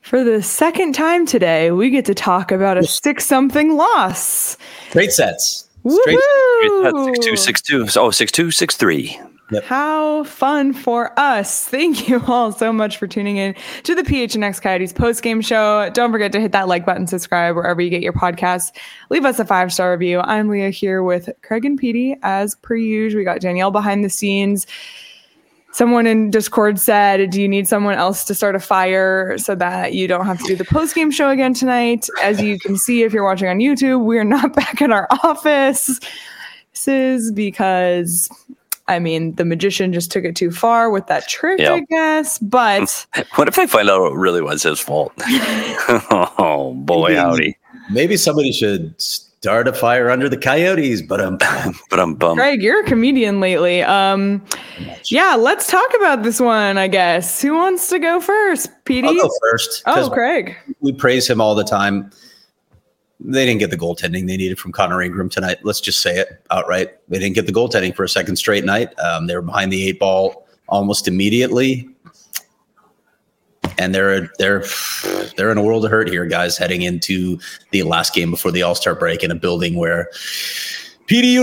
For the second time today, we get to talk about a 6-something loss. Straight sets. Straight 6-2, 6-2. Oh, 6-2, 6-3. Yep. How fun for us. Thank you all so much for tuning in to the PHNX Coyotes postgame show. Don't forget to hit that like button, subscribe wherever you get your podcasts. Leave us a 5-star review. I'm Leah here with Craig and Petey as per usual. We got Danielle behind the scenes. Someone in Discord said, do you need someone else to start a fire so that you don't have to do the post-game show again tonight? As you can see, if you're watching on YouTube, we're not back in our office. This is because, the magician just took it too far with that trick, I guess. But what if I find out it really was his fault? Oh, boy, howdy. Maybe somebody should start a fire under the Coyotes, but I'm bummed. Craig, you're a comedian lately. Let's talk about this one, I guess. Who wants to go first? Petey? I'll go first. Oh, Craig. We praise him all the time. They didn't get the goaltending they needed from Connor Ingram tonight. Let's just say it outright. They didn't get the goaltending for a second straight night. They were behind the 8 ball almost immediately. And they're in a world of hurt here, guys, heading into the last game before the All-Star break in a building where, Petey,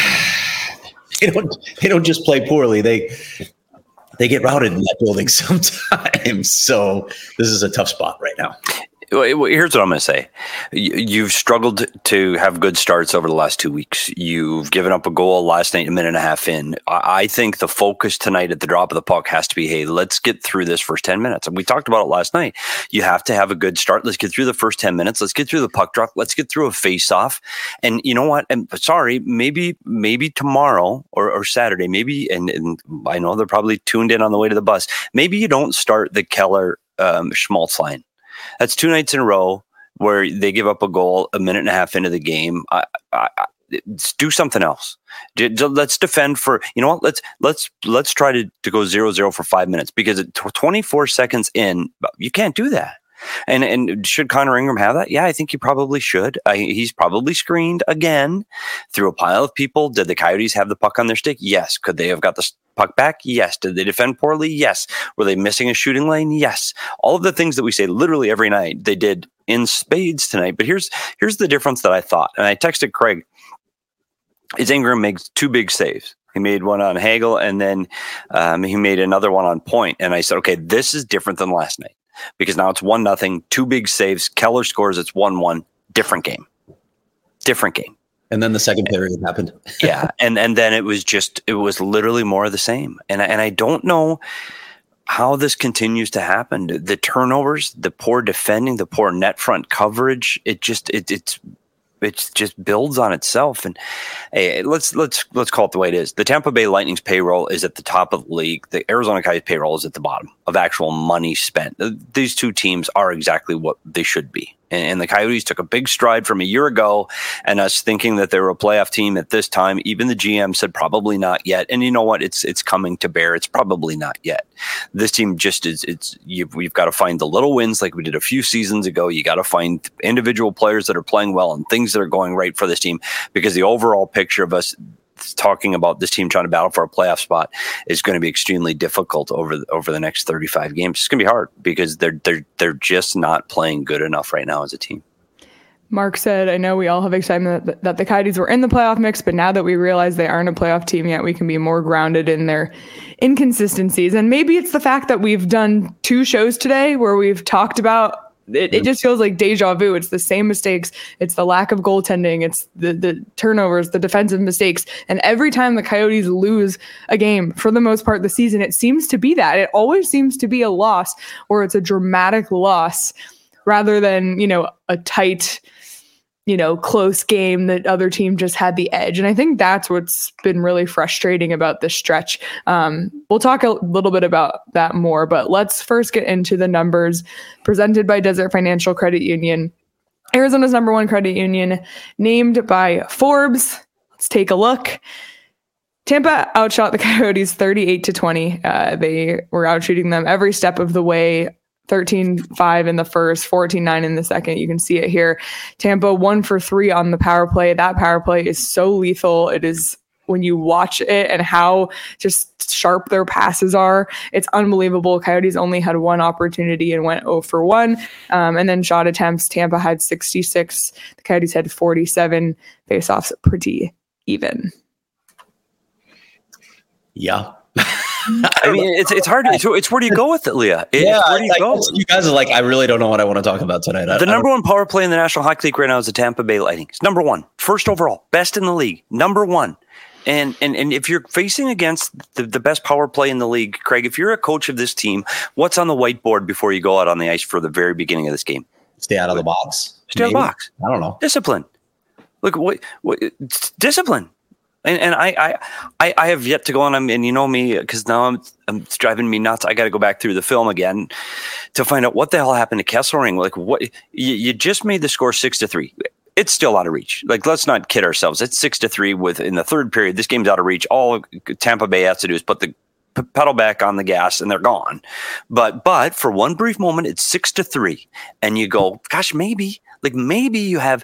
they don't just play poorly. They get routed in that building sometimes. So this is a tough spot right now. Here's what I'm going to say. You've struggled to have good starts over the last 2 weeks. You've given up a goal last night, a minute and a half in. I think the focus tonight at the drop of the puck has to be, hey, let's get through this first 10 minutes. And we talked about it last night. You have to have a good start. Let's get through the first 10 minutes. Let's get through the puck drop. Let's get through a face-off. And you know what? And sorry, maybe tomorrow or Saturday, maybe, and I know they're probably tuned in on the way to the bus. Maybe you don't start the Keller Schmaltz line. That's 2 nights in a row where they give up a goal a minute and a half into the game. Let's do something else. Let's defend for, let's try to go 0-0 for 5 minutes, because at 24 seconds in, you can't do that. And should Connor Ingram have that? Yeah, I think he probably should. He's probably screened again through a pile of people. Did the Coyotes have the puck on their stick? Yes. Could they have got the puck back? Yes. Did they defend poorly? Yes. Were they missing a shooting lane? Yes. All of the things that we say literally every night, they did in spades tonight. But here's the difference that I thought. And I texted Craig. Is Ingram makes 2 big saves. He made one on Hagel, and then he made another one on point. And I said, okay, this is different than last night, because now it's 1-0, 2 big saves. Keller scores. It's 1-1. Different game. And then the second period happened. Yeah. And then it was literally more of the same. And I don't know how this continues to happen. The turnovers, the poor defending, the poor net front coverage, it just builds on itself. And hey, let's call it the way it is. The Tampa Bay Lightning's payroll is at the top of the league. The Arizona Coyotes payroll is at the bottom of actual money spent. These two teams are exactly what they should be. And the Coyotes took a big stride from a year ago, and us thinking that they were a playoff team at this time. Even the GM said probably not yet. And you know what? It's coming to bear. It's probably not yet. This team just is. We've got to find the little wins like we did a few seasons ago. You got to find individual players that are playing well and things that are going right for this team, because the overall picture of us talking about this team trying to battle for a playoff spot is going to be extremely difficult over the next 35 games. It's going to be hard because they're just not playing good enough right now as a team. Mark said, I know we all have excitement that the Coyotes were in the playoff mix, but now that we realize they aren't a playoff team yet, we can be more grounded in their inconsistencies. And maybe it's the fact that we've done 2 shows today where we've talked about it just feels like deja vu. It's the same mistakes. It's the lack of goaltending. It's the turnovers, the defensive mistakes. And every time the Coyotes lose a game, for the most part this season, it seems to be that. It always seems to be a loss, or it's a dramatic loss, rather than, a tight, close game that other team just had the edge. And I think that's what's been really frustrating about this stretch. We'll talk a little bit about that more, but let's first get into the numbers presented by Desert Financial Credit Union, Arizona's #1 credit union, named by Forbes. Let's take a look. Tampa outshot the Coyotes 38-20. They were outshooting them every step of the way. 13-5 in the first, 14-9 in the second. You can see it here. Tampa 1 for 3 on the power play. That power play is so lethal. It is when you watch it and how just sharp their passes are. It's unbelievable. Coyotes only had one opportunity and went 0 for 1. And then shot attempts, Tampa had 66. The Coyotes had 47. Faceoffs pretty even. Yeah. I mean, it's hard. It's where do you go with it, Leah? Where do you go? You guys are like, I really don't know what I want to talk about tonight. The number one power play in the National Hockey League right now is the Tampa Bay Lightning. It's number one, first overall, best in the league, number one. And if you're facing against the best power play in the league, Craig, if you're a coach of this team, what's on the whiteboard before you go out on the ice for the very beginning of this game? Stay out of the box. Stay out of the box. I don't know. Discipline. Look, what discipline. And I have yet to go on, and you know me, because now it's driving me nuts. I got to go back through the film again to find out what the hell happened to Kesselring. Like, what you just made the score 6-3. It's still out of reach. Like, let's not kid ourselves. It's 6-3 in the third period. This game's out of reach. All Tampa Bay has to do is put the pedal back on the gas, and they're gone. But for one brief moment, it's 6-3, and you go, gosh, maybe you have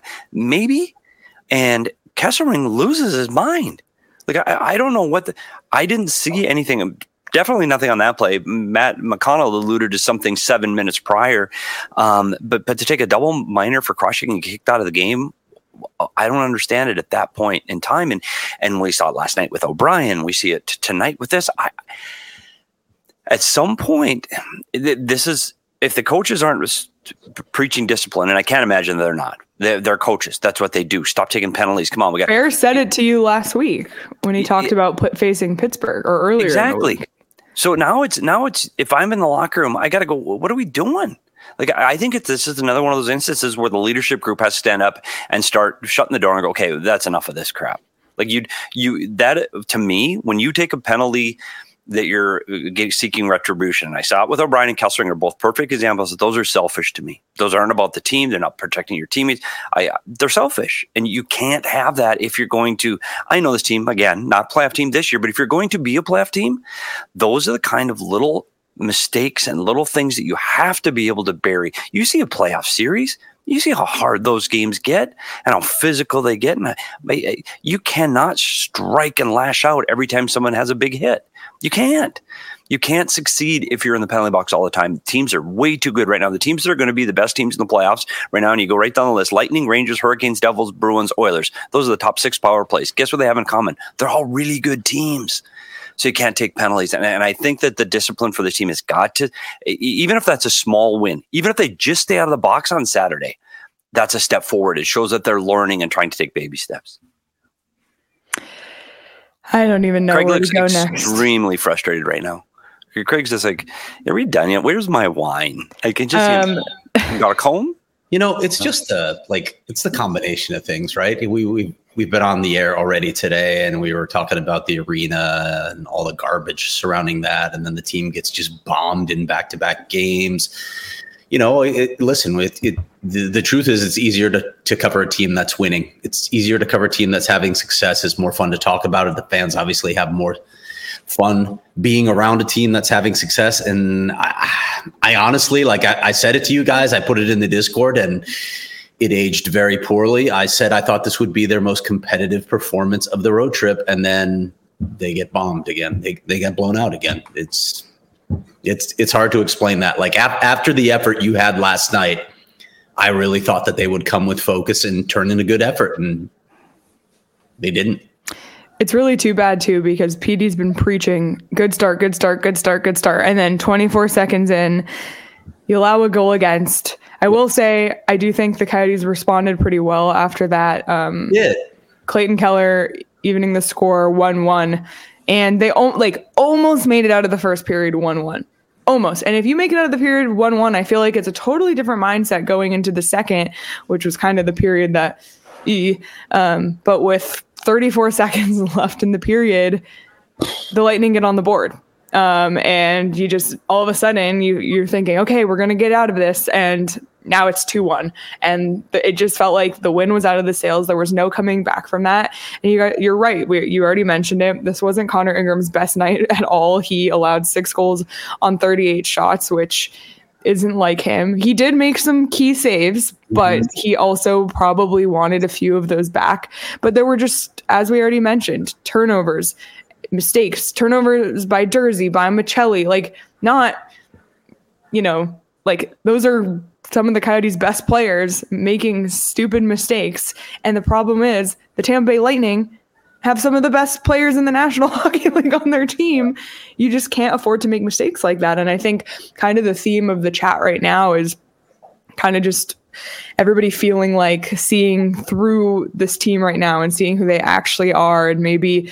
and Kesselring loses his mind. Like, I don't know what I didn't see anything. Definitely nothing on that play. Matt McConnell alluded to something 7 minutes prior. But to take a double minor for crushing and kicked out of the game, I don't understand it at that point in time. And we saw it last night with O'Brien. We see it tonight with this. At some point, this is, if the coaches aren't preaching discipline, and I can't imagine they're not. They're coaches. That's what they do. Stop taking penalties. Come on, we got. Bear said it to you last week when he talked about facing Pittsburgh or earlier. Exactly. So now it's if I'm in the locker room, I got to go. What are we doing? Like, I think this is another one of those instances where the leadership group has to stand up and start shutting the door and go, okay, that's enough of this crap. Like that to me, when you take a penalty that you're seeking retribution. And I saw it with O'Brien and Kesselring are both perfect examples that those are selfish to me. Those aren't about the team. They're not protecting your teammates. They're selfish. And you can't have that if you're going to, I know this team, again, not playoff team this year, but if you're going to be a playoff team, those are the kind of little mistakes and little things that you have to be able to bury. You see a playoff series, you see how hard those games get and how physical they get. And you cannot strike and lash out every time someone has a big hit. You can't. You can't succeed if you're in the penalty box all the time. Teams are way too good right now. The teams that are going to be the best teams in the playoffs right now, and you go right down the list, Lightning, Rangers, Hurricanes, Devils, Bruins, Oilers. Those are the top 6 power plays. Guess what they have in common? They're all really good teams. So you can't take penalties. And I think that the discipline for the team has got to, even if that's a small win, even if they just stay out of the box on Saturday, that's a step forward. It shows that they're learning and trying to take baby steps. I don't even know Craig where looks to go next. Extremely frustrated right now. Craig's just like, are we done yet? Where's my wine? I can just you got a comb? You know, it's just it's the combination of things, right? We've been on the air already today, and we were talking about the arena and all the garbage surrounding that, and then the team gets just bombed in back-to-back games. You know, the truth is it's easier to cover a team that's winning. It's easier to cover a team that's having success. It's more fun to talk about it. The fans obviously have more fun being around a team that's having success. And I honestly, like I said it to you guys, I put it in the Discord and it aged very poorly. I said I thought this would be their most competitive performance of the road trip, and then they get bombed again. They get blown out again. It's hard to explain that. Like after the effort you had last night, I really thought that they would come with focus and turn in a good effort, and they didn't. It's really too bad too, because PD's been preaching good start. And then 24 seconds in, you allow a goal against. I will say, I do think the Coyotes responded pretty well after that. Yeah. Clayton Keller evening the score 1-1. And they almost made it out of the first period 1-1. Almost. And if you make it out of the period 1-1, I feel like it's a totally different mindset going into the second, which was kind of the period that but with 34 seconds left in the period, the Lightning get on the board. And you just, all of a sudden, you're thinking, okay, we're going to get out of this. And now it's 2-1. And it just felt like the wind was out of the sails. There was no coming back from that. And you're right. You already mentioned it. This wasn't Connor Ingram's best night at all. He allowed 6 goals on 38 shots, which isn't like him. He did make some key saves, but he also probably wanted a few of those back. But there were just, as we already mentioned, turnovers, mistakes, turnovers by Jersey, by Michelli, like not, like those are some of the Coyotes' best players making stupid mistakes. And the problem is the Tampa Bay Lightning have some of the best players in the National Hockey League on their team. You just can't afford to make mistakes like that. And I think kind of the theme of the chat right now is kind of just everybody feeling like seeing through this team right now and seeing who they actually are, and maybe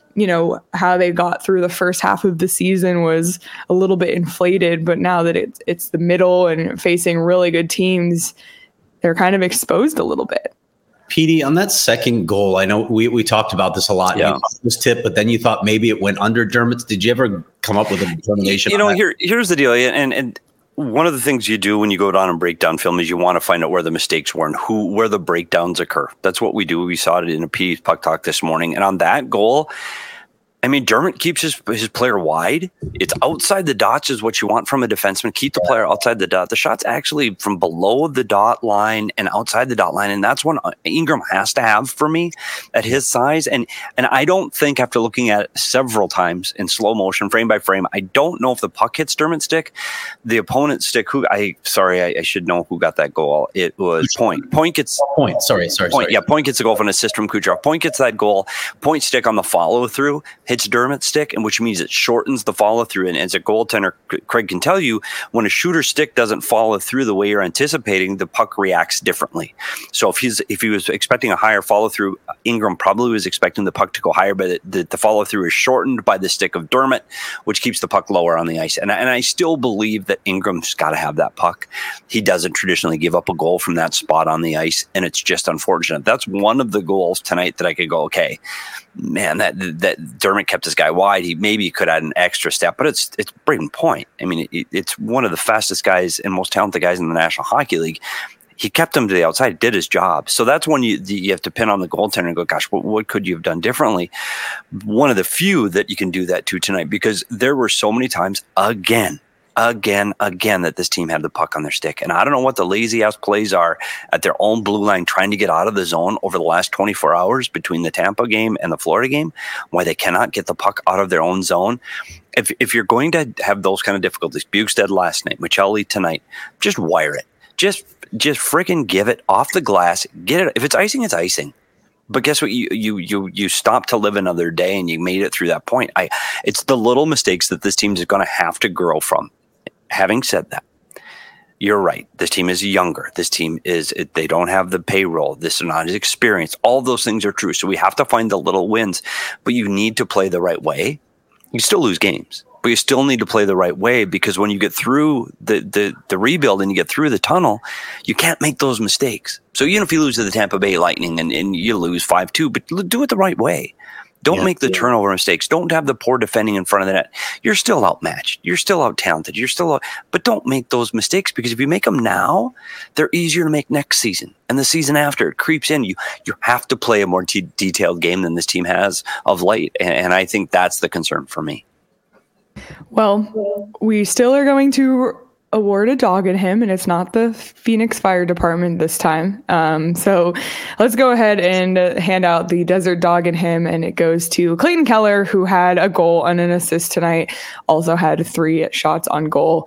how they got through the first half of the season was a little bit inflated, but now that it's the middle and facing really good teams, they're kind of exposed a little bit. PD, on that second goal, I know we talked about this a lot. Yeah. You thought it was tipped, but then you thought maybe it went under Dermott's. Did you ever come up with a determination? Here's the deal, and one of the things you do when you go down and break down film is you want to find out where the mistakes were and where the breakdowns occur. That's what we do. We saw it in a P's Puck Talk this morning, and on that goal, I mean, Dermott keeps his player wide. It's outside the dots is what you want from a defenseman. Keep the player outside the dot. The shot's actually from below the dot line and outside the dot line, and that's what Ingram has to have for me at his size. And I don't think, after looking at it several times in slow motion, frame by frame, I don't know if the puck hits Dermott's stick, the opponent's stick. I should know who got that goal. It was Point. Point gets Point. Sorry. Yeah, Point gets a goal from an assist from Kucherov. Point gets that goal. Point stick on the follow through hits Dermott's stick, and which means it shortens the follow through. And as a goaltender, Craig can tell you, when a shooter's stick doesn't follow through the way you're anticipating, the puck reacts differently. So if he was expecting a higher follow through, Ingram probably was expecting the puck to go higher, but the follow through is shortened by the stick of Dermott, which keeps the puck lower on the ice. And I still believe that Ingram's got to have that puck. He doesn't traditionally give up a goal from that spot on the ice, and it's just unfortunate. That's one of the goals tonight that I could go, okay, man, that Dermott kept this guy wide. He maybe could add an extra step, but it's Brayden Point. I mean, it's one of the fastest guys and most talented guys in the National Hockey League. He kept him to the outside, did his job. So that's when you have to pin on the goaltender and go, gosh, what could you have done differently? One of the few that you can do that to tonight, because there were so many times again that this team had the puck on their stick. And I don't know what the lazy ass plays are at their own blue line trying to get out of the zone over the last 24 hours between the Tampa game and the Florida game, why they cannot get the puck out of their own zone. If you're going to have those kind of difficulties, Bukestad last night, Michelli tonight, just wire it. Just freaking give it off the glass. Get it. If it's icing, it's icing. But guess what? You stopped to live another day, and you made it through that point. It's the little mistakes that this team is going to have to grow from. Having said that, you're right. This team is younger. This team they don't have the payroll. This is not as experienced. All those things are true. So we have to find the little wins, but you need to play the right way. You still lose games, but you still need to play the right way, because when you get through the rebuild and you get through the tunnel, you can't make those mistakes. So even if you lose to the Tampa Bay Lightning and you lose 5-2, but do it the right way. Don't make the turnover mistakes. Don't have the poor defending in front of the net. You're still outmatched. You're still out-talented. But don't make those mistakes, because if you make them now, they're easier to make next season. And the season after, it creeps in. You have to play a more detailed game than this team has of late. And I think that's the concern for me. Well, we still are going to award a dog at him, and it's not the Phoenix Fire Department this time. So let's go ahead and hand out the Desert Dog at him, and it goes to Clayton Keller, who had a goal and an assist tonight, also had 3 shots on goal.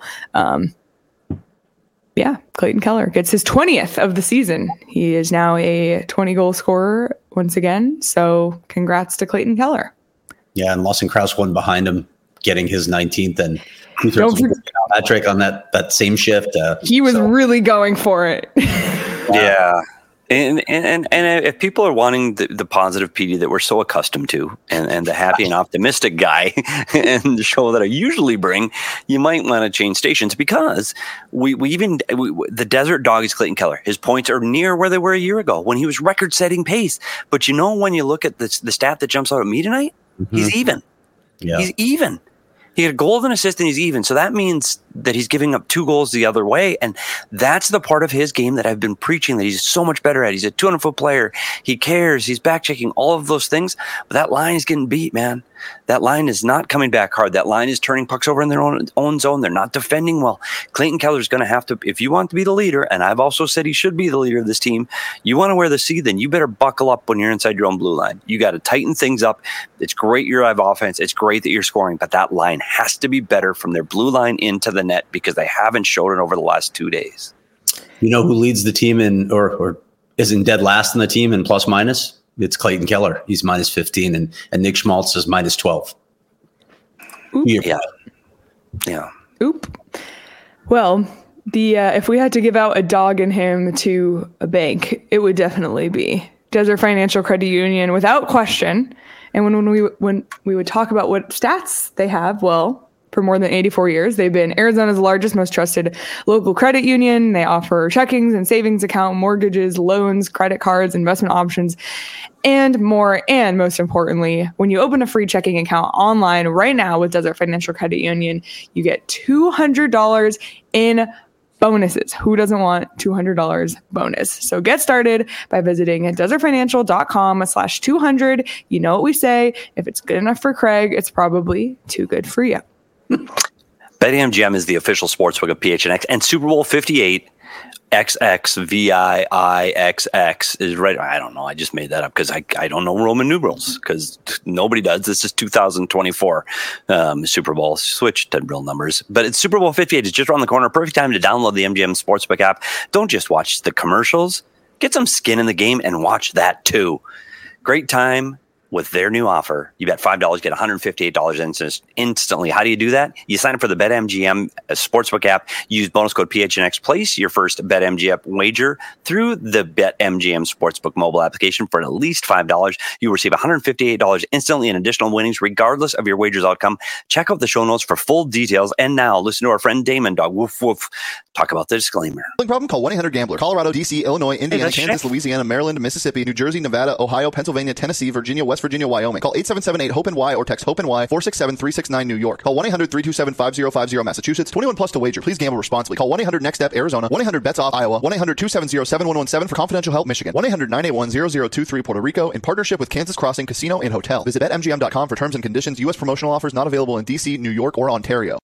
Clayton Keller gets his 20th of the season. He is now a 20-goal scorer once again, so congrats to Clayton Keller. Yeah, and Lawson Krause won behind him, getting his 19th, and Patrick on that same shift. He was really going for it. Yeah. And if people are wanting the positive PD that we're so accustomed to, and the happy and optimistic guy, and the show that I usually bring, you might want to change stations, because the Desert Dog is Clayton Keller. His points are near where they were a year ago when he was record-setting pace. But when you look at the stat that jumps out at me tonight, he's even. Yeah. He's even. He had a goal and assist, and he's even. So that means that he's giving up 2 goals the other way. And that's the part of his game that I've been preaching that he's so much better at. He's a 200-foot player. He cares. He's back checking, all of those things. But that line is getting beat, man. That line is not coming back hard. That line is turning pucks over in their own zone. They're not defending well. Clayton Keller is going to have to, if you want to be the leader, and I've also said he should be the leader of this team, you want to wear the C, then you better buckle up when you're inside your own blue line. You got to tighten things up. It's great you have offense. It's great that you're scoring, but that line has to be better from their blue line into the net because they haven't showed it over the last 2 days. You know who leads the team in or isn't dead last in the team in plus minus? It's Clayton Keller. He's minus 15, and Nick Schmaltz is minus 12. Oop. Yeah. Oop. Well, if we had to give out a dog and him to a bank, it would definitely be Desert Financial Credit Union without question. And when we would talk about what stats they have, well, for more than 84 years, they've been Arizona's largest, most trusted local credit union. They offer checkings and savings account, mortgages, loans, credit cards, investment options, and more. And most importantly, when you open a free checking account online right now with Desert Financial Credit Union, you get $200 in bonuses. Who doesn't want $200 bonus? So get started by visiting desertfinancial.com/200. You know what we say. If it's good enough for Craig, it's probably too good for you. BetMGM is the official sportsbook of PHNX, and Super Bowl 58 XXVIIXX is right. I don't know. I just made that up because I don't know Roman numerals because nobody does. This is 2024 Super Bowl. Switch to real numbers. But it's Super Bowl 58. It's just around the corner. Perfect time to download the MGM Sportsbook app. Don't just watch the commercials. Get some skin in the game and watch that too. Great time. With their new offer, you bet $5, get $158 instantly. How do you do that? You sign up for the BetMGM Sportsbook app. Use bonus code PHNX. Place your first BetMGM wager through the BetMGM Sportsbook mobile application for at least $5. You receive $158 instantly in additional winnings, regardless of your wager's outcome. Check out the show notes for full details. And now, listen to our friend Damon Dog Woof Woof talk about the disclaimer. Problem? Call 1-800-GAMBLER. Colorado, D.C., Illinois, Indiana, Kansas, Louisiana, Maryland, Mississippi, New Jersey, Nevada, Ohio, Pennsylvania, Tennessee, Virginia, West Virginia, Wyoming. Call 877-8-HOPE-NY or text HOPE-NY 467-369 New York. Call 1-800-327-5050 Massachusetts. 21 plus to wager. Please gamble responsibly. Call 1-800-NEXT-STEP Arizona. 1-800-BETS-OFF Iowa. 1-800-270-7117 for confidential help Michigan. 1-800-981-0023 Puerto Rico in partnership with Kansas Crossing Casino and Hotel. Visit BetMGM.com for terms and conditions. U.S. promotional offers not available in D.C., New York, or Ontario.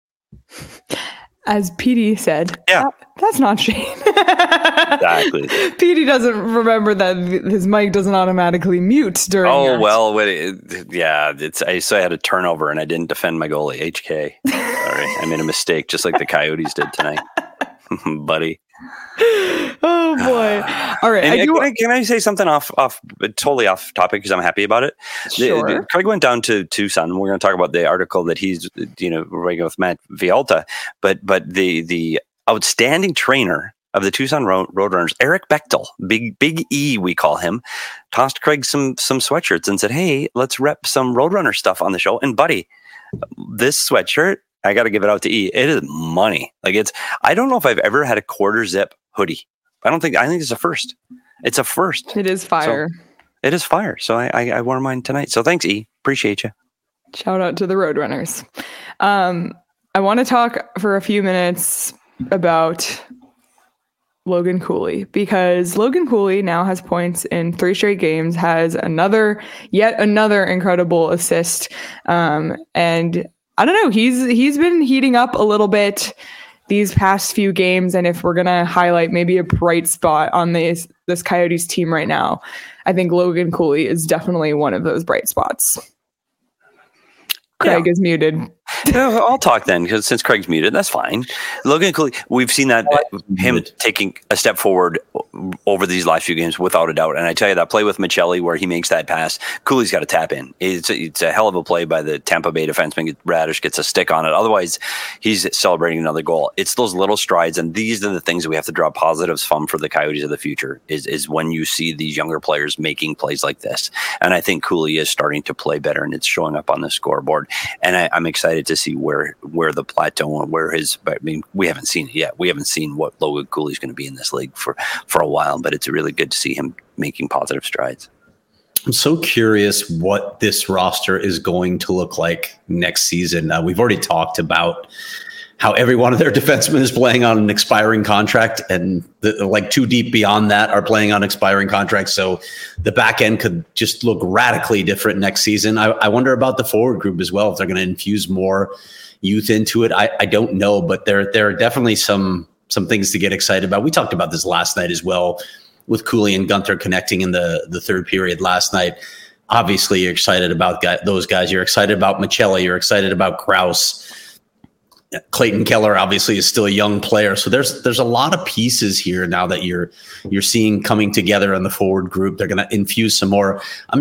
As PD said, yeah, that's not Shane. Exactly. PD doesn't remember that his mic doesn't automatically mute during. Oh, well, so I had a turnover and I didn't defend my goalie, HK. Sorry, I made a mistake, just like the Coyotes did tonight, buddy. Oh boy! All right, can I say something totally off topic because I'm happy about it? Sure. Craig went down to Tucson. We're going to talk about the article that he's writing with Matt Vialta, but the outstanding trainer of the Tucson Roadrunners, Eric Bechtel, Big E, we call him, tossed Craig some sweatshirts and said, "Hey, let's rep some Roadrunner stuff on the show." And buddy, this sweatshirt, I got to give it out to E. It is money. I don't know if I've ever had a quarter zip hoodie. I think it's a first. It's a first. It is fire. So, it is fire. So I wore mine tonight. So thanks, E. Appreciate you. Shout out to the Roadrunners. I want to talk for a few minutes about Logan Cooley because Logan Cooley now has points in 3 straight games, has yet another incredible assist. And I don't know, he's been heating up a little bit these past few games. And if we're going to highlight maybe a bright spot on this Coyotes team right now, I think Logan Cooley is definitely one of those bright spots. Craig is muted. I'll talk then, because since Craig's muted, that's fine. Logan Cooley, we've seen that him taking a step forward over these last few games without a doubt. And I tell you, that play with Michelli where he makes that pass, Cooley's got to tap in. It's a hell of a play by the Tampa Bay defenseman. Radish gets a stick on it. Otherwise, he's celebrating another goal. It's those little strides, and these are the things that we have to draw positives from for the Coyotes of the future, is when you see these younger players making plays like this. And I think Cooley is starting to play better, and it's showing up on the scoreboard. And I'm excited to see where the plateau and we haven't seen it yet. We haven't seen what Logan Cooley's going to be in this league for a while, but it's really good to see him making positive strides. I'm so curious what this roster is going to look like next season. We've already talked about how every one of their defensemen is playing on an expiring contract, and like two deep beyond that are playing on expiring contracts. So the back end could just look radically different next season. I wonder about the forward group as well, if they're going to infuse more youth into it. I don't know, but there are definitely some things to get excited about. We talked about this last night as well, with Cooley and Gunther connecting in the third period last night. Obviously, you're excited about those guys. You're excited about Michelli. You're excited about Krause. Clayton Keller obviously is still a young player. So there's a lot of pieces here now that you're seeing coming together in the forward group. They're going to infuse some more.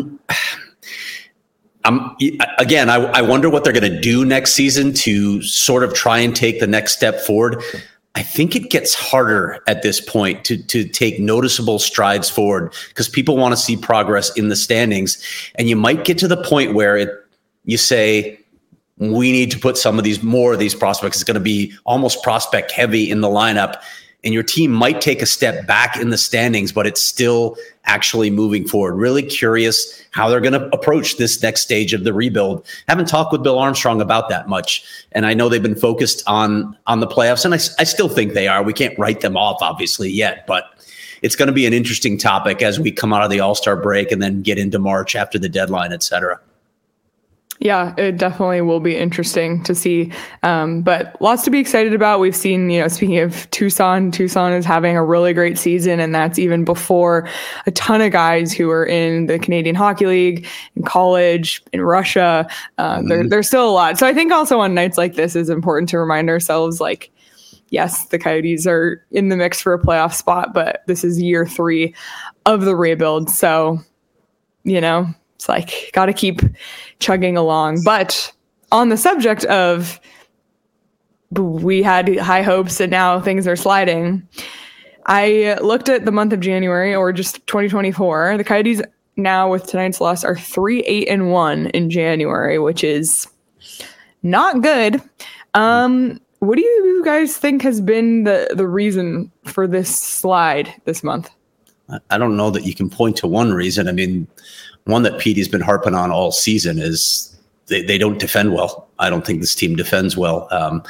I wonder what they're going to do next season to sort of try and take the next step forward. I think it gets harder at this point to take noticeable strides forward, because people want to see progress in the standings. And you might get to the point where you say, we need to put more of these prospects. It's going to be almost prospect heavy in the lineup, and your team might take a step back in the standings, but it's still actually moving forward. Really curious how they're going to approach this next stage of the rebuild. Haven't talked with Bill Armstrong about that much, and I know they've been focused on the playoffs, and I still think they are. We can't write them off, obviously, yet, but it's going to be an interesting topic as we come out of the All-Star break and then get into March after the deadline, et cetera. Yeah, it definitely will be interesting to see, but lots to be excited about. We've seen, speaking of Tucson is having a really great season, and that's even before a ton of guys who are in the Canadian Hockey League, in college, in Russia. There's still a lot. So I think also on nights like this is important to remind ourselves, like, yes, the Coyotes are in the mix for a playoff spot, but this is year 3 of the rebuild. So, it's like, got to keep chugging along. But on the subject of we had high hopes and now things are sliding, I looked at the month of January, or just 2024. The Coyotes now, with tonight's loss, are 3-8-1 in January, which is not good. What do you guys think has been the reason for this slide this month? I don't know that you can point to one reason. I mean, one that Petey's been harping on all season is they don't defend well. I don't think this team defends well.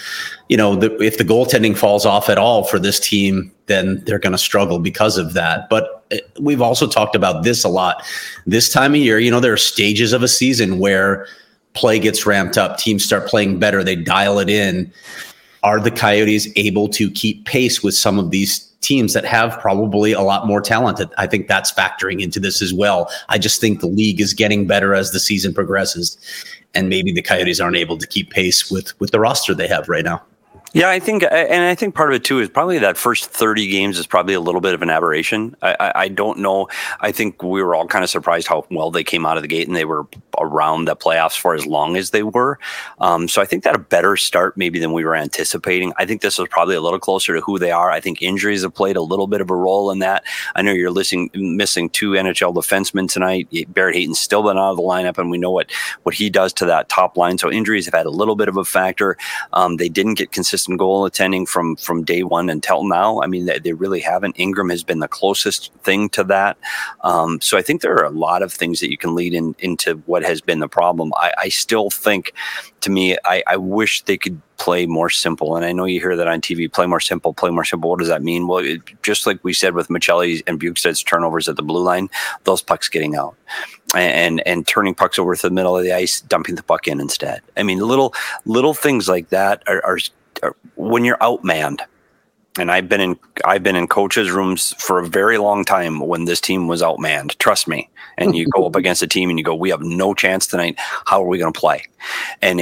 If the goaltending falls off at all for this team, then they're going to struggle because of that. But we've also talked about this a lot. This time of year, there are stages of a season where play gets ramped up. Teams start playing better. They dial it in. Are the Coyotes able to keep pace with some of these teams that have probably a lot more talent? I think that's factoring into this as well. I just think the league is getting better as the season progresses, and maybe the Coyotes aren't able to keep pace with the roster they have right now. Yeah, I think part of it too is probably that first 30 games is probably a little bit of an aberration. I don't know. I think we were all kind of surprised how well they came out of the gate, and they were around the playoffs for as long as they were. So I think that a better start maybe than we were anticipating. I think this was probably a little closer to who they are. I think injuries have played a little bit of a role in that. I know you're missing 2 NHL defensemen tonight. Barrett Hayton's still been out of the lineup, and we know what he does to that top line. So injuries have had a little bit of a factor. They didn't get consistent goal attending from day one until now. I mean, they really haven't. Ingram has been the closest thing to that. So I think there are a lot of things that you can lead into what has been the problem. I still think, to me, I wish they could play more simple. And I know you hear that on TV, play more simple, play more simple. What does that mean? Well, just like we said with Michelli and Bukestad's turnovers at the blue line, those pucks getting out and turning pucks over to the middle of the ice, dumping the puck in instead. I mean, little things like that are when you're outmanned. And I've been in coaches' rooms for a very long time when this team was outmanned. Trust me. And you go up against a team and you go, we have no chance tonight. How are we going to play? And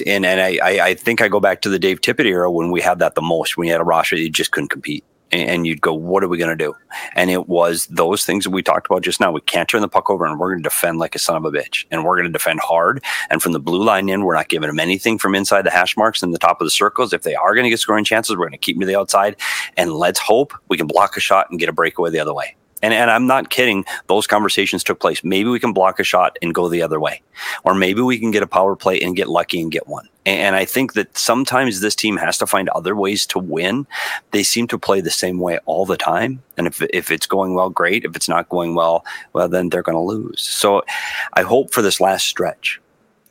I think I go back to the Dave Tippett era when we had that the most. When you had a roster that you just couldn't compete. And you'd go, what are we going to do? And it was those things that we talked about just now. We can't turn the puck over, and we're going to defend like a son of a bitch. And we're going to defend hard. And from the blue line in, we're not giving them anything from inside the hash marks and the top of the circles. If they are going to get scoring chances, we're going to keep them to the outside. And let's hope we can block a shot and get a breakaway the other way. And I'm not kidding. Those conversations took place. Maybe we can block a shot and go the other way. Or maybe we can get a power play and get lucky and get one. And I think that sometimes this team has to find other ways to win. They seem to play the same way all the time. And if it's going well, great. If it's not going well, then they're going to lose. So I hope for this last stretch,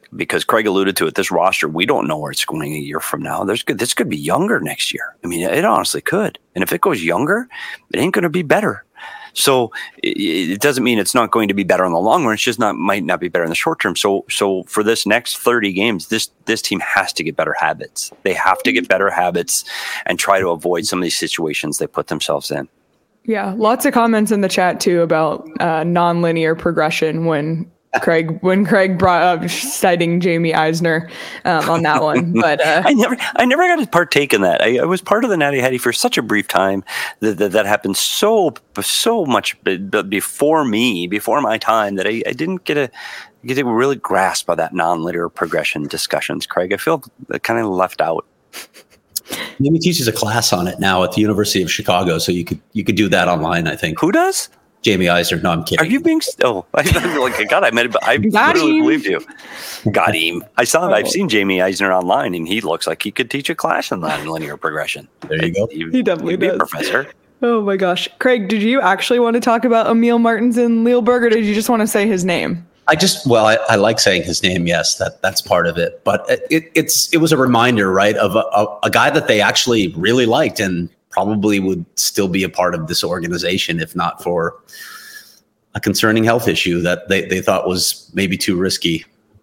because Craig alluded to it. This roster, we don't know where it's going a year from now. This could be younger next year. I mean, it honestly could. And if it goes younger, it ain't going to be better. So it doesn't mean it's not going to be better in the long run. It's just might not be better in the short term. So for this next 30 games, this team has to get better habits. They have to get better habits and try to avoid some of these situations they put themselves in. Yeah, lots of comments in the chat too about non-linear progression when Craig brought up citing Jamie Eisner on that one. But I never got to partake in that. I was part of the Natty Hattie for such a brief time that happened so much before my time, that I didn't get a really grasp of that non-linear progression discussions. Craig, I feel kind of left out. Maybe teaches a class on it now at the University of Chicago, so you could do that online, I think. Who does? Jamie Eisner. No, I'm kidding. Are you being? Oh, I literally believed you. Got him. I've seen Jamie Eisner online, and he looks like he could teach a class in non-linear progression. There you go. He definitely does. Be a professor. Oh my gosh, Craig, did you actually want to talk about Emil Martinsen Lielberg, or did you just want to say his name? I like saying his name. Yes, that's part of it. But it was a reminder, right, of a guy that they actually really liked and probably would still be a part of this organization if not for a concerning health issue that they thought was maybe too risky.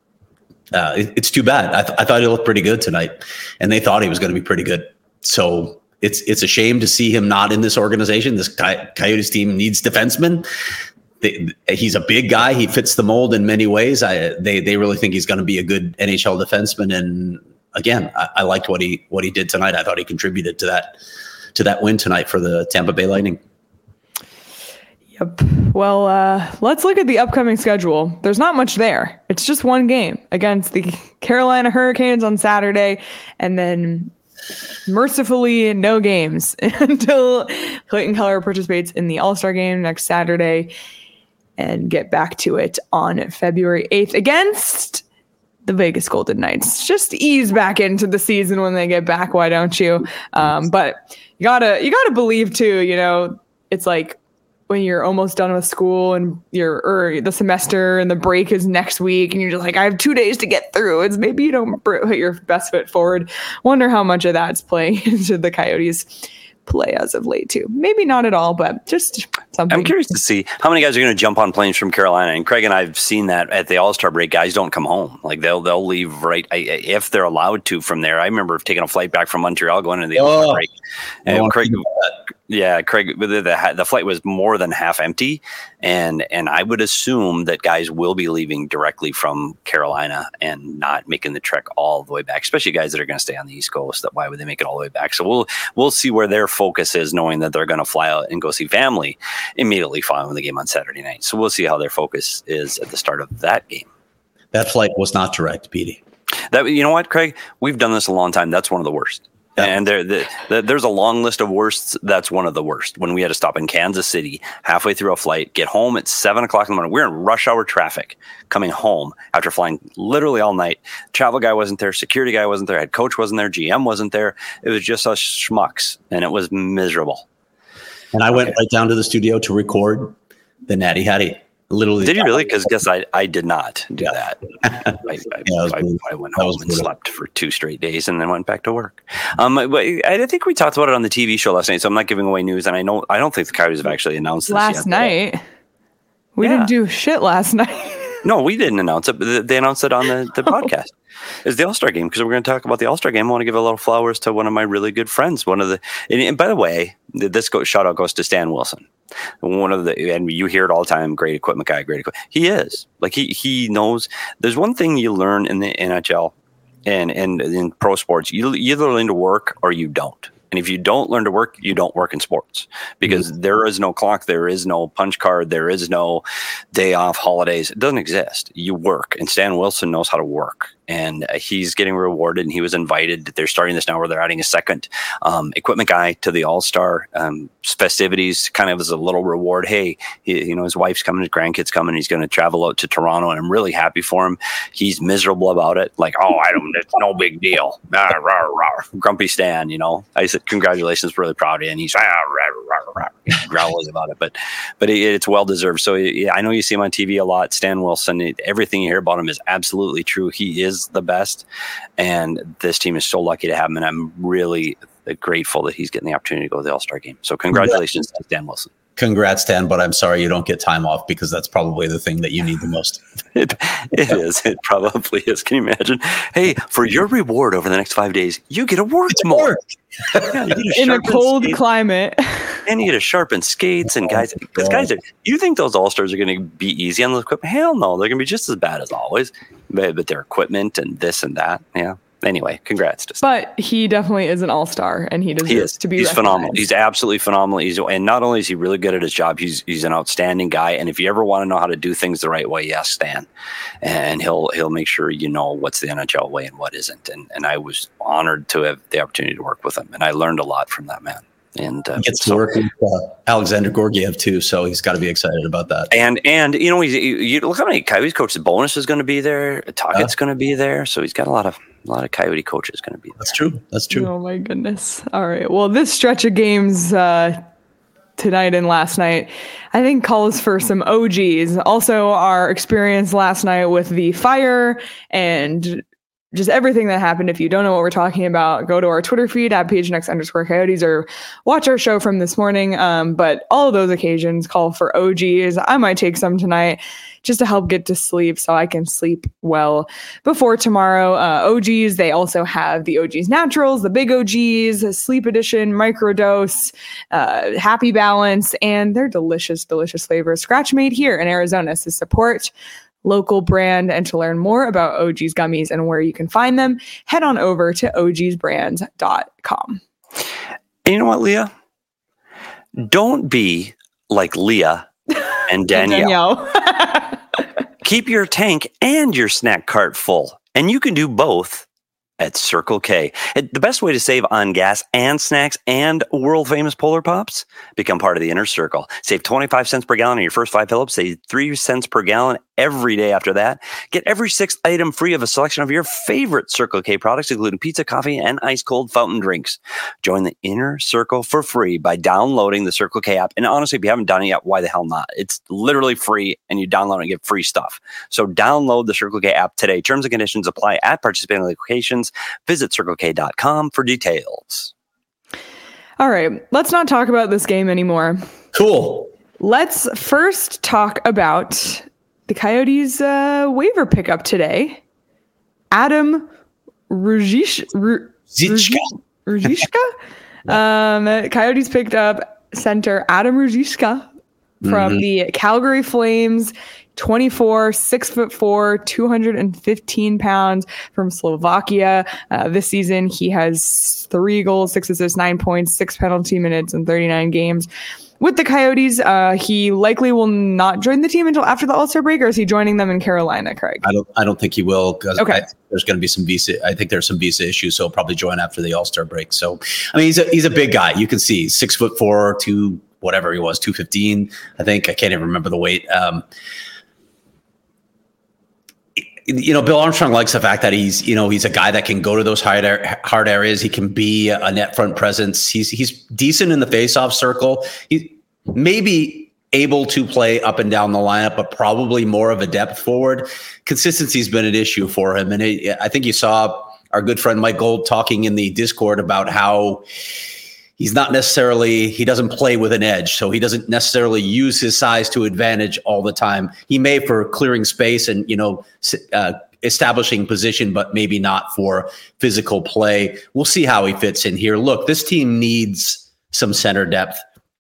It's too bad. I thought he looked pretty good tonight, and they thought he was going to be pretty good. So it's a shame to see him not in this organization. This Coyotes team needs defensemen. He's a big guy. He fits the mold in many ways. They really think he's going to be a good NHL defenseman. And again, I liked what he did tonight. I thought he contributed to that win tonight for the Tampa Bay Lightning. Yep. Well, let's look at the upcoming schedule. There's not much there. It's just one game against the Carolina Hurricanes on Saturday, and then mercifully no games until Clayton Keller participates in the All-Star game next Saturday, and get back to it on February 8th against the Vegas Golden Knights. Just ease back into the season when they get back. Why don't you? But you gotta believe too, it's like when you're almost done with school and the semester and the break is next week and you're just like, I have 2 days to get through. It's maybe you don't put your best foot forward. Wonder how much of that's playing into the Coyotes play as of late too. Maybe not at all, but just something. I'm curious to see how many guys are going to jump on planes from Carolina. And Craig and I have seen that at the All-Star break, guys don't come home. Like they'll leave if they're allowed to from there. I remember taking a flight back from Montreal going to the All-Star break. And Craig, the flight was more than half empty. And I would assume that guys will be leaving directly from Carolina and not making the trek all the way back, especially guys that are going to stay on the East Coast. Why would they make it all the way back? So we'll see where their focus is, knowing that they're going to fly out and go see family immediately following the game on Saturday night. So we'll see how their focus is at the start of that game. That flight was not direct, Petey. You know what, Craig? We've done this a long time. That's one of the worst. And there's a long list of worsts. That's one of the worst. When we had to stop in Kansas City halfway through a flight, get home at 7:00 in the morning. We're in rush hour traffic coming home after flying literally all night. Travel guy wasn't there. Security guy wasn't there. Head coach wasn't there. GM wasn't there. It was just us schmucks, and it was miserable. And I went right down to the studio to record the Natty Hattie. Literally. Did you really? Because I did not do that. I went home and slept for 2 straight days and then went back to work. I think we talked about it on the TV show last night, so I'm not giving away news. And I don't think the Coyotes have actually announced this last night. We didn't do shit last night. No, we didn't announce it, but they announced it on the podcast. It's the All-Star game, because we're going to talk about the All-Star game. I want to give a little flowers to one of my really good friends. And by the way, this shout out goes to Stan Wilson. And you hear it all the time, great equipment guy, great equipment. He is. Like he knows. There's one thing you learn in the NHL and in pro sports. You either learn to work or you don't. And if you don't learn to work, you don't work in sports, because there is no clock, there is no punch card, there is no day off, holidays. It doesn't exist. You work, and Stan Wilson knows how to work. and he's getting rewarded, and he was invited. They're starting this now where they're adding a second equipment guy to the All-Star festivities, kind of as a little reward. Hey, his wife's coming, his grandkids coming, he's going to travel out to Toronto, and I'm really happy for him. He's miserable about it. Like, it's no big deal. Rah, rah, rah. Grumpy Stan, I said, congratulations, really proud of you. And he's growling about it, but it's well-deserved. So I know you see him on TV a lot. Stan Wilson, everything you hear about him is absolutely true. He is the best, and this team is so lucky to have him, and I'm really grateful that he's getting the opportunity to go to the All-Star game. So congratulations to Stan Wilson. Congrats, Stan, but I'm sorry you don't get time off, because that's probably the thing that you need the most. It is. It probably is. Can you imagine? Hey, for your reward over the next 5 days, you get to work more. Yeah, in a cold climate. And you get to sharpen skates, and guys, you think those All-Stars are going to be easy on the equipment? Hell no, they're going to be just as bad as always. But their equipment and this and that, yeah. Anyway, congrats. But he definitely is an all-star, and he deserves to be He's recognized. phenomenal. He's absolutely phenomenal. And not only is he really good at his job, he's an outstanding guy. And if you ever want to know how to do things the right way, ask Stan. And he'll make sure you know what's the NHL way and what isn't. And I was honored to have the opportunity to work with him. And I learned a lot from that man. And he gets to work with Alexander Gorgiev too, so he's got to be excited about that. And you look how many Coyotes coaches. Bonus is going to be there. Toggett's going to be there, so he's got a lot of Coyote coaches going to be there. That's true. Oh my goodness! All right. Well, this stretch of games tonight and last night, I think calls for some OGs. Also, our experience last night with the fire and just everything that happened. If you don't know what we're talking about, go to our Twitter feed at PHNX_Coyotes or watch our show from this morning. But all of those occasions call for OGs. I might take some tonight just to help get to sleep so I can sleep well before tomorrow. OGs, they also have the OGs Naturals, the Big OGs, Sleep Edition, Microdose, Happy Balance, and their delicious, delicious flavors. Scratch made here in Arizona. So support local brand, and to learn more about OG's gummies and where you can find them, head on over to ogsbrands.com. And you know what, Leah? Don't be like Leah and Danielle. Keep your tank and your snack cart full, and you can do both at Circle K. The best way to save on gas and snacks and world-famous Polar Pops? Become part of the Inner Circle. Save 25 cents per gallon on your first 5 fill-ups. Save 3 cents per gallon every day after that. Get every 6th item free of a selection of your favorite Circle K products, including pizza, coffee, and ice-cold fountain drinks. Join the Inner Circle for free by downloading the Circle K app. And honestly, if you haven't done it yet, why the hell not? It's literally free, and you download it and get free stuff. So download the Circle K app today. Terms and conditions apply at participating locations. Visit CircleK.com for details. All right, let's not talk about this game anymore. Cool. Let's first talk about the Coyotes waiver pickup today. Adam Ruzicka. Coyotes picked up center Adam Ruzicka from the Calgary Flames. 24, 6'4", 215 pounds from Slovakia. This season, he has 3 goals, 6 assists, 9 points, 6 penalty minutes in 39 games. With the Coyotes, he likely will not join the team until after the All-Star break, or is he joining them in Carolina, Craig? I don't think he will, because okay. there's going to be some visa. I think there's some visa issues, so he'll probably join after the All-Star break. So, I mean, he's a big guy. You can see 6'4", 2 whatever he was, 215. I think I can't even remember the weight. Bill Armstrong likes the fact that he's a guy that can go to those hard areas. He can be a net front presence. He's decent in the faceoff circle. He may be able to play up and down the lineup, but probably more of a depth forward. Consistency's been an issue for him. And I think you saw our good friend Mike Gold talking in the Discord about how he doesn't play with an edge, so he doesn't necessarily use his size to advantage all the time. He may for clearing space and, establishing position, but maybe not for physical play. We'll see how he fits in here. Look, this team needs some center depth.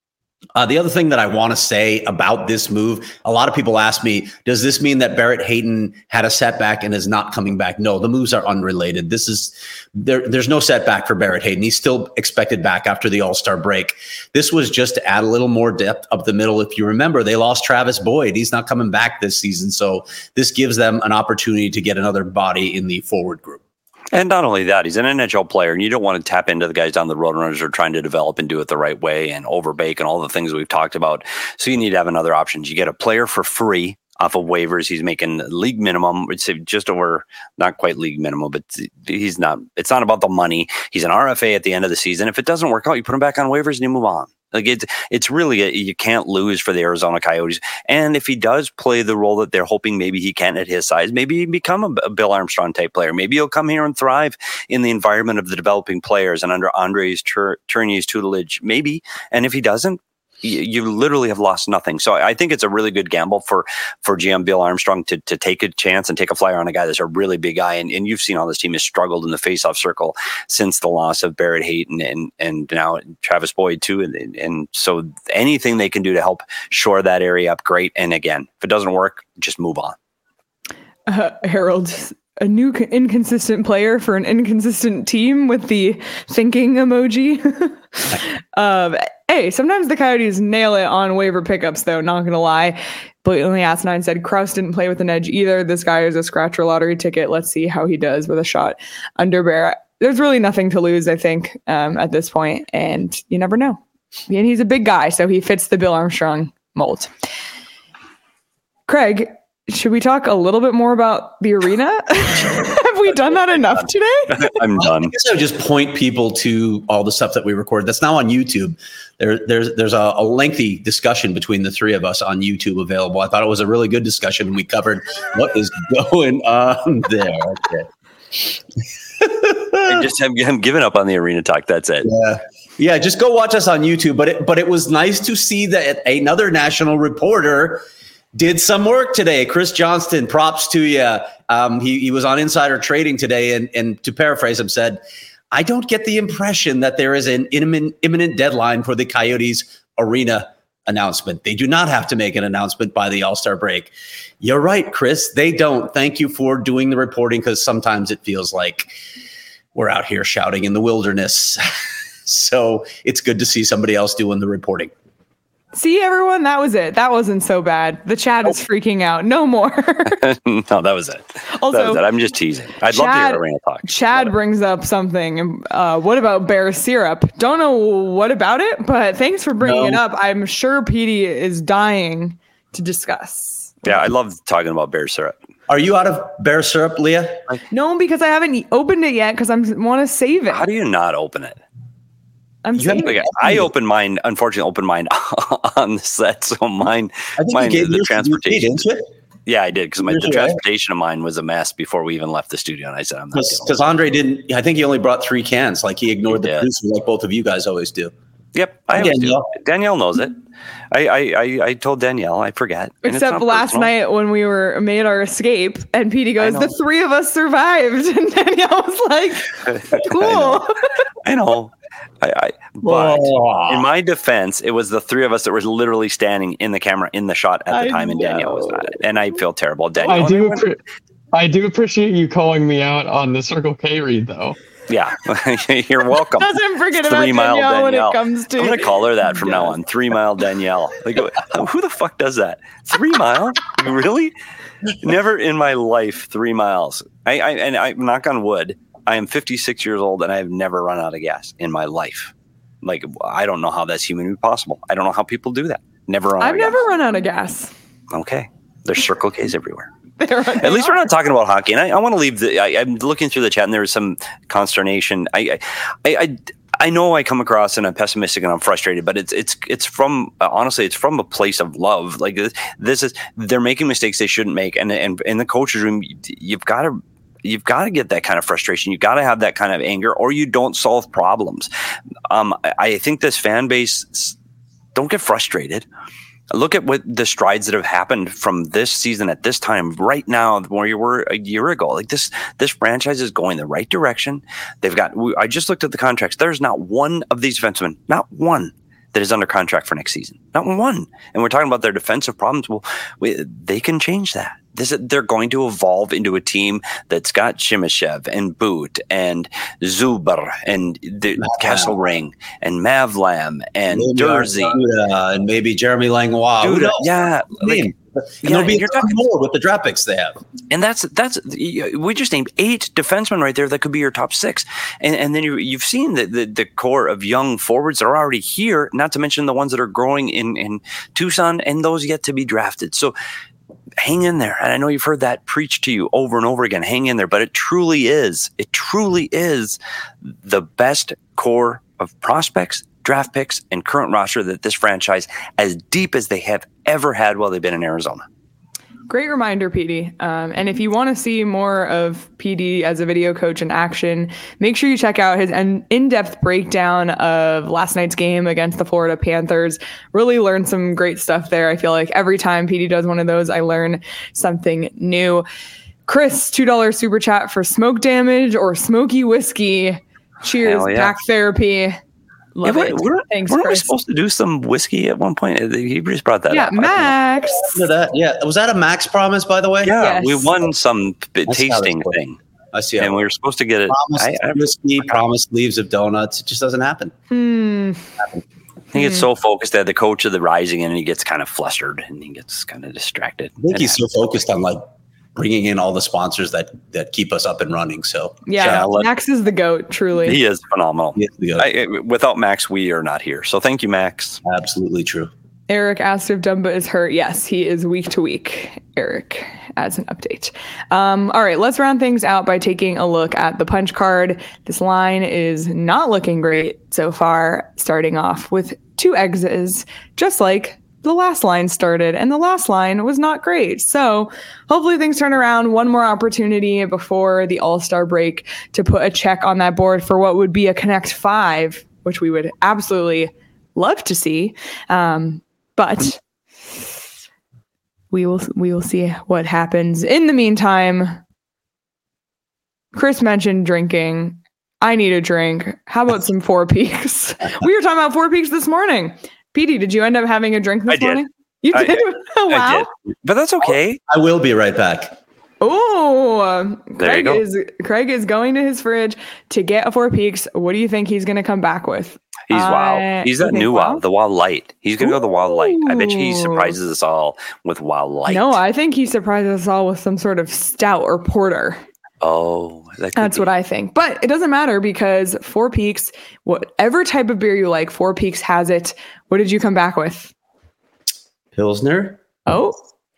The other thing that I want to say about this move, a lot of people ask me, does this mean that Barrett Hayton had a setback and is not coming back? No, the moves are unrelated. There's no setback for Barrett Hayton. He's still expected back after the All-Star break. This was just to add a little more depth up the middle. If you remember, they lost Travis Boyd. He's not coming back this season. So this gives them an opportunity to get another body in the forward group. And not only that, he's an NHL player, and you don't want to tap into the guys down the road runners who are trying to develop and do it the right way and overbake and all the things we've talked about. So you need to have another option. You get a player for free off of waivers. He's making league minimum. It's just over, not quite league minimum, but it's not about the money. He's an RFA at the end of the season. If it doesn't work out, you put him back on waivers and you move on. Like it's really you can't lose for the Arizona Coyotes. And if he does play the role that they're hoping maybe he can at his size, maybe he become a Bill Armstrong type player. Maybe he'll come here and thrive in the environment of the developing players and under Andres Tourigny's tutelage. Maybe. And if he doesn't, you literally have lost nothing. So I think it's a really good gamble for GM Bill Armstrong to take a chance and take a flyer on a guy that's a really big guy. And you've seen how this team has struggled in the faceoff circle since the loss of Barrett Hayton and now Travis Boyd too. And so anything they can do to help shore that area up, great. And again, if it doesn't work, just move on. Harold, a new inconsistent player for an inconsistent team with the thinking emoji. Hey, sometimes the Coyotes nail it on waiver pickups, though, not going to lie. Blatantly Asinine said Krause didn't play with an edge either. This guy is a scratcher lottery ticket. Let's see how he does with a shot under Barrett. There's really nothing to lose, I think, at this point, and you never know. And he's a big guy, so he fits the Bill Armstrong mold. Craig, should we talk a little bit more about the arena? Have we done that enough today? I'm done. I guess I would just point people to all the stuff that we record. That's now on YouTube. There's a lengthy discussion between the three of us on YouTube available. I thought it was a really good discussion. We covered what is going on there. Okay. I'm giving up on the arena talk. That's it. Yeah. Just go watch us on YouTube. But it was nice to see that another national reporter did some work today. Chris Johnston, props to you. He was on Insider Trading today, and to paraphrase him, said, I don't get the impression that there is an imminent deadline for the Coyotes arena announcement. They do not have to make an announcement by the All-Star break. You're right, Chris. They don't. Thank you for doing the reporting, because sometimes it feels like we're out here shouting in the wilderness. So it's good to see somebody else doing the reporting. See, everyone, that was it. That wasn't so bad. The chat is freaking out. No more. No, that was it. Also, that was it. I'm just teasing. I'd love to hear arena talk. Chad brings up something. What about bear syrup? Don't know what about it, but thanks for bringing it up. I'm sure Petey is dying to discuss. Yeah, I love talking about bear syrup. Are you out of bear syrup, Leah? No, because I haven't opened it yet because I want to save it. How do you not open it? I opened mine, unfortunately, on the set. So mine the transportation. Yeah, I did, because the transportation of mine was a mess before we even left the studio. And I said, I'm not because Andre didn't. I think he only brought 3 cans. Like he ignored the producer, like both of you guys always do. Yep, I always do. Danielle knows it. I told Danielle. I forget. Except last night when we made our escape, and Petey goes, "The 3 of us survived," and Danielle was like, "Cool." I know. But in my defense, it was the 3 of us that were literally standing in the camera in the shot at the time, and Danielle was not. And I feel terrible. Danielle, I do appreciate you calling me out on the Circle K read, though. Yeah, you're welcome. Doesn't forget about Danielle when it comes to. I'm gonna call her that from now on. 3 Mile Danielle. Like, who the fuck does that? 3 Mile? Really? Never in my life 3 miles. I knock on wood. I am 56 years old and I have never run out of gas in my life. Like, I don't know how that's humanly possible. I don't know how people do that. I've never run out of gas. Okay. There's Circle K's everywhere. At least we're not talking about hockey. And I want to leave I'm looking through the chat and there was some consternation. I know I come across and I'm pessimistic and I'm frustrated, but it's from honestly, it's from a place of love. Like they're making mistakes they shouldn't make. And in the coach's room, you've got to get that kind of frustration. You've got to have that kind of anger, or you don't solve problems. I think this fan base, don't get frustrated. Look at what the strides that have happened from this season at this time right now where you were a year ago. Like this franchise is going the right direction. I just looked at the contracts. There's not one of these defensemen, not one, that is under contract for next season. Not one. And we're talking about their defensive problems. Well, they can change that. They're going to evolve into a team that's got Chimashev and Boot and Zuber and Kesselring and Mavlam and Dursey. And maybe Jeremy Langlois. Yeah. And there'll be more with the draft picks they have. And that's we just named 8 defensemen right there that could be your top 6. And then you've seen the core of young forwards that are already here, not to mention the ones that are growing in Tucson and those yet to be drafted. So hang in there. And I know you've heard that preached to you over and over again. Hang in there. But it truly is the best core of prospects, draft picks, and current roster that this franchise, as deep as they have ever had while they've been in Arizona. Great reminder, PD. And if you want to see more of PD as a video coach in action, make sure you check out his in-depth breakdown of last night's game against the Florida Panthers. Really learned some great stuff there. I feel like every time PD does one of those, I learn something new. Chris, $2 super chat for smoke damage or smoky whiskey. Cheers, back therapy. Love it. Thanks, weren't we Chris. supposed to do some whiskey at one point? He just brought that up. Yeah, Max. Was that a Max promise, by the way? Yeah, yes. We won some tasting thing. I see. And we were supposed to get it. Whiskey, promised leaves of donuts. It just doesn't happen. He gets so focused that the coach of the Rising and he gets kind of flustered and he gets kind of distracted. I think he's so focused on bringing in all the sponsors that keep us up and running. So Max is the GOAT, truly. He is phenomenal. He is the GOAT. Without Max, we are not here. So thank you, Max. Absolutely true. Eric asked if Dumba is hurt. Yes, he is week to week. Eric adds an update. All right, let's round things out by taking a look at the punch card. This line is not looking great so far, starting off with 2 exes, just like the last line started, and the last line was not great. So hopefully things turn around. One more opportunity before the All-Star break to put a check on that board for what would be a Connect 5, which we would absolutely love to see. But we will see what happens. In the meantime, Chris mentioned drinking. I need a drink. How about some Four Peaks? We were talking about Four Peaks this morning. PD, did you end up having a drink this morning? You did? Wow. I did. But that's okay. I will be right back. Oh, there you go. Craig is going to his fridge to get a Four Peaks. What do you think he's going to come back with? He's Wow. He's that new Wow, the Wow Light. He's going to go the Wow Light. I bet you he surprises us all with Wow Light. No, I think he surprises us all with some sort of stout or porter. Oh, that's what I think. But it doesn't matter because Four Peaks, whatever type of beer you like, Four Peaks has it. What did you come back with? Pilsner. Oh.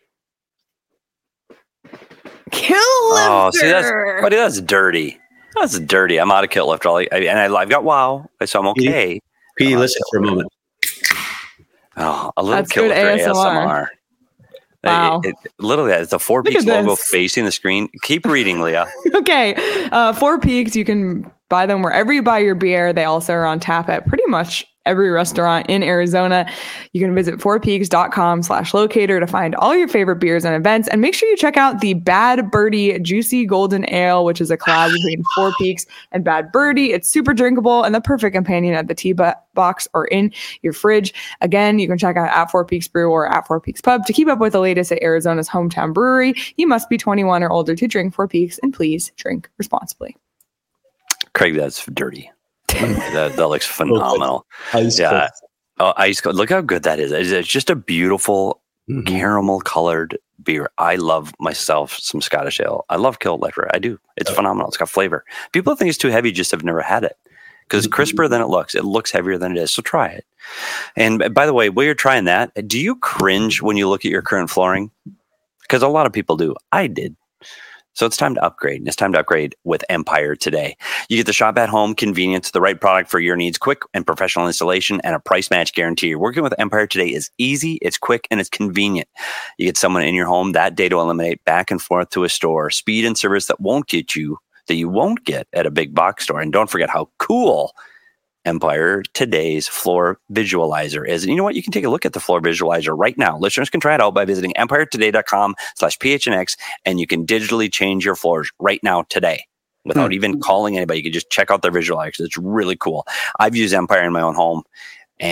Kill Lifter. Oh, see, that's dirty. That's dirty. I'm out of Kill Lifter. I've got Wow, so I'm okay. P, listen for a moment. Oh, a little Kill Lifter ASMR. Wow. Literally, it's a Four Peaks logo facing the screen. Keep reading, Leah. Okay. Four Peaks, you can buy them wherever you buy your beer. They also are on tap at pretty much every restaurant in Arizona. You can visit fourpeaks.com/locator to find all your favorite beers and events. And make sure you check out the Bad Birdie Juicy Golden Ale, which is a collab between Four Peaks and Bad Birdie. It's super drinkable and the perfect companion at the tea box or in your fridge. Again, you can check out at Four Peaks Brew or at Four Peaks Pub to keep up with the latest at Arizona's hometown brewery. You must be 21 or older to drink Four Peaks, and please drink responsibly. Craig, that's dirty. that looks phenomenal. Ice cold. Look how good that is. It's just a beautiful caramel colored beer. I love myself some Scottish ale. I love Kill Lifter. I do. It's phenomenal. It's got flavor. People think it's too heavy, just have never had it because it's crisper than it looks. It looks heavier than it is. So try it. And by the way, while you're trying that, do you cringe when you look at your current flooring? Because a lot of people do. I did. So it's time to upgrade, and it's time to upgrade with Empire today. You get the shop at home convenience, the right product for your needs, quick and professional installation, and a price match guarantee. Working with Empire today is easy, it's quick, and it's convenient. You get someone in your home that day to eliminate back and forth to a store, speed and service that you won't get at a big box store. And don't forget how cool Empire today's floor visualizer is. And you know what? You can take a look at the floor visualizer right now. Listeners can try it out by visiting empiretoday.com/phnx, and you can digitally change your floors right now today without even calling anybody. You can just check out their visualizer. It's really cool. I've used Empire in my own home, and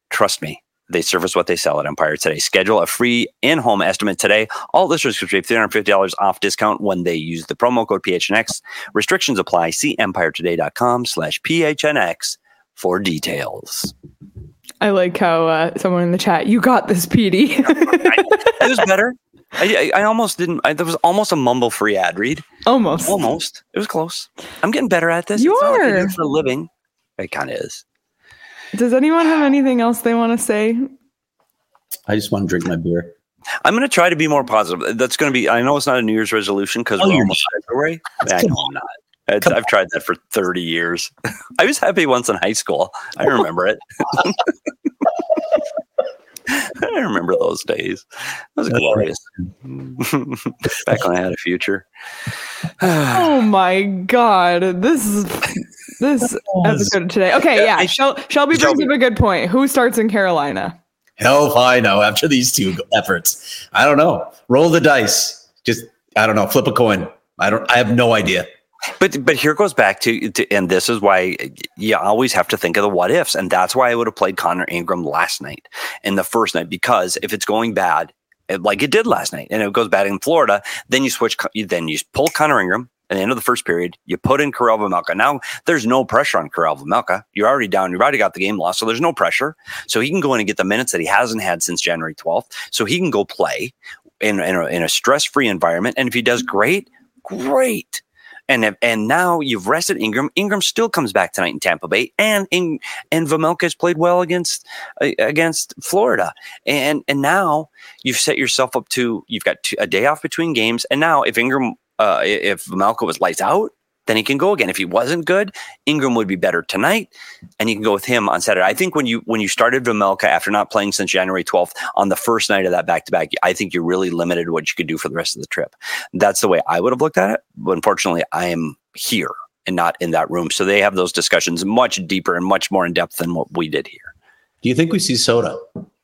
Trust me. They service what they sell at Empire Today. Schedule a free in-home estimate today. All listeners can save $350 off discount when they use the promo code PHNX. Restrictions apply. See empiretoday.com/PHNX for details. I like how someone in the chat, you got this, Petey. It was better. I almost didn't. There was almost a mumble-free ad read. Almost. It was close. I'm getting better at this. You it's are. Not like I do it for a living. It kind of is. Does anyone have anything else they want to say? I just want to drink my beer. I'm going to try to be more positive. That's going to be, I know it's not a New Year's resolution because we're almost February. I know I'm not. I've tried that for 30 years. I was happy once in high school. I remember it. I remember those days. It was glorious. Back when I had a future. Oh my God. This episode today. Okay, yeah. Shelby brings up a good point. Who starts in Carolina? Hell if I know after these two efforts. I don't know. Roll the dice. Just, I don't know. Flip a coin. I have no idea. But here goes back to, and this is why you always have to think of the what ifs. And that's why I would have played Connor Ingram last night and the first night, because if it's going bad, like it did last night, and it goes bad in Florida, then you pull Connor Ingram at the end of the first period, you put in Karel Vejmelka. Now there's no pressure on Karel Vejmelka. You're already down. You've already got the game lost. So there's no pressure. So he can go in and get the minutes that he hasn't had since January 12th. So he can go play in a stress-free environment. And if he does great. And now you've rested Ingram. Ingram still comes back tonight in Tampa Bay, and Vejmelka has played well against Florida. And now you've set yourself up to, you've got a day off between games. And now if Vejmelka was lights out, then he can go again. If he wasn't good, Ingram would be better tonight, and you can go with him on Saturday. I think when you started Vejmelka after not playing since January 12th on the first night of that back-to-back, I think you really limited what you could do for the rest of the trip. That's the way I would have looked at it. But unfortunately, I am here and not in that room. So they have those discussions much deeper and much more in depth than what we did here. Do you think we see Soda?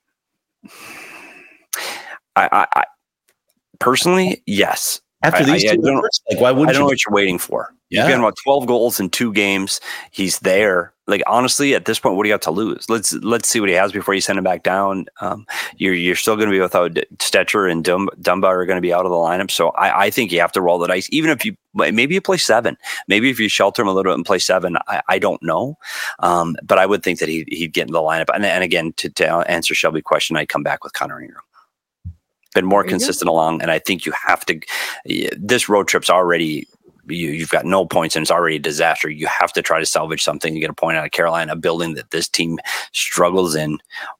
I personally, yes. After these two efforts, like why wouldn't I don't know what you're waiting for. Yeah. He's getting about 12 goals in 2 games. He's there. Like, honestly, at this point, what do you have to lose? Let's see what he has before you send him back down. You're still going to be without Stetcher, and Dumba are going to be out of the lineup. So I think you have to roll the dice. Even if maybe you play 7, maybe if you shelter him a little bit and play 7, I don't know. But I would think that he'd get in the lineup. And again, to answer Shelby's question, I'd come back with Connor Ingram. Been more consistent along, and I think you have to. This road trip's already. You've got no points, and it's already a disaster. You have to try to salvage something. You get a point out of Carolina, a building that this team struggles in.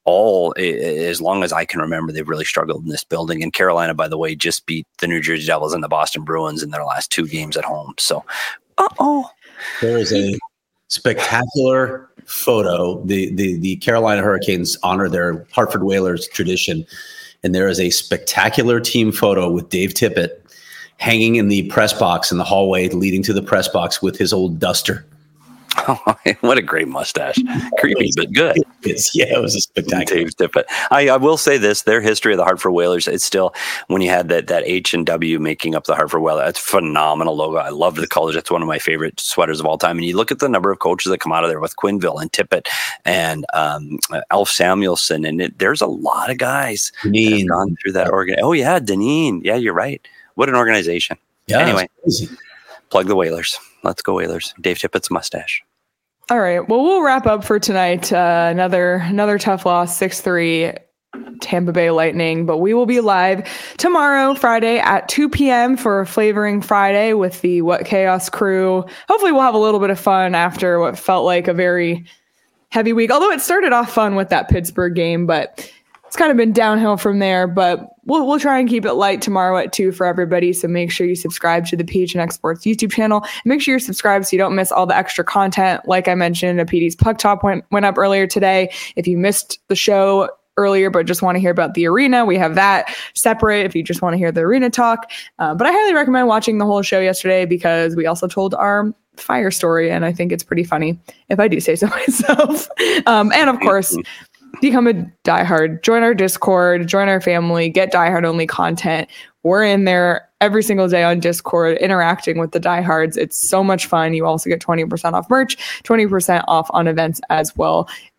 As long as I can remember, they've really struggled in this building. And Carolina, by the way, just beat the New Jersey Devils and the Boston Bruins in their last 2 games at home. So, there is a spectacular photo. The Carolina Hurricanes honor their Hartford Whalers tradition. And there is a spectacular team photo with Dave Tippett hanging in the press box in the hallway leading to the press box with his old duster. Oh, what a great mustache. Creepy, but good. It was a spectacular. Dave Tippett. I will say this, their history of the Hartford Whalers, it's still, when you had that H and W making up the Hartford Whalers, it's a phenomenal logo. I love the colors. It's one of my favorite sweaters of all time. And you look at the number of coaches that come out of there with Quinville and Tippett and Alf Samuelson, and there's a lot of guys that have gone through that organization. Oh, yeah, Deneen. Yeah, you're right. What an organization. Yeah, anyway, plug the Whalers. Let's go Whalers. Dave Tippett's mustache. All right. Well, we'll wrap up for tonight. Another tough loss, 6-3 Tampa Bay Lightning. But we will be live tomorrow, Friday at 2 p.m. for Flavoring Friday with the What Chaos crew. Hopefully we'll have a little bit of fun after what felt like a very heavy week. Although it started off fun with that Pittsburgh game, but it's kind of been downhill from there. But we'll try and keep it light tomorrow at 2 for everybody. So make sure you subscribe to the PHNX Sports YouTube channel. And make sure you're subscribed so you don't miss all the extra content. Like I mentioned, a PD's Puck Top went up earlier today. If you missed the show earlier but just want to hear about the arena, we have that separate if you just want to hear the arena talk. But I highly recommend watching the whole show yesterday because we also told our fire story, and I think it's pretty funny, if I do say so myself. And of course, become a diehard, join our Discord, join our family, get diehard only content. We're in there every single day on Discord interacting with the diehards. It's so much fun. You also get 20% off merch, 20% off on events as well.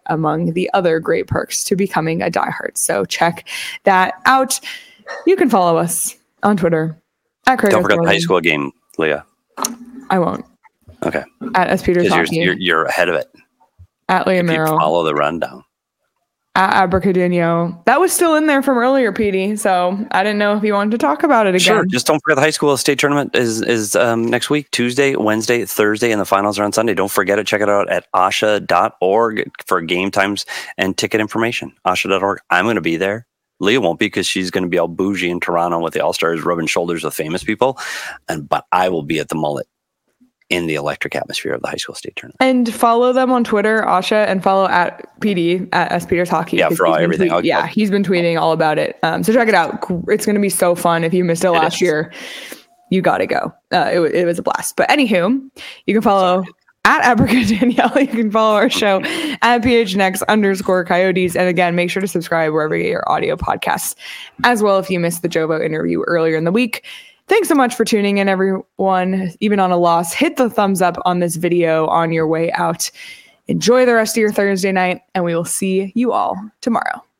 among the other great perks to becoming a diehard. So check that out. You can follow us on Twitter at Craig. Don't forget the high school game, Leah. I won't. Okay. At S. Peters Hockey. You're ahead of it. At Leah Merrill. Follow the rundown. At Abracadinho. That was still in there from earlier, Petey. So I didn't know if you wanted to talk about it again. Sure. Just don't forget the high school state tournament is next week, Tuesday, Wednesday, Thursday, and the finals are on Sunday. Don't forget to check it out at asha.org for game times and ticket information. asha.org. I'm going to be there. Leah won't be because she's going to be all bougie in Toronto with the All-Stars rubbing shoulders with famous people. But I will be at the Mullet in the electric atmosphere of the high school state tournament. And follow them on Twitter, Asha, and follow at PD at S. Peters Hockey. Yeah, for everything. He's been tweeting all about it. So check it out. It's going to be so fun. If you missed it last year, you got to go. It was a blast. But anywho, you can follow at Abracadabra Danielle. You can follow our show at PHNX_Coyotes. And again, make sure to subscribe wherever you get your audio podcasts as well if you missed the Jovo interview earlier in the week. Thanks so much for tuning in, everyone. Even on a loss, hit the thumbs up on this video on your way out. Enjoy the rest of your Thursday night, and we will see you all tomorrow.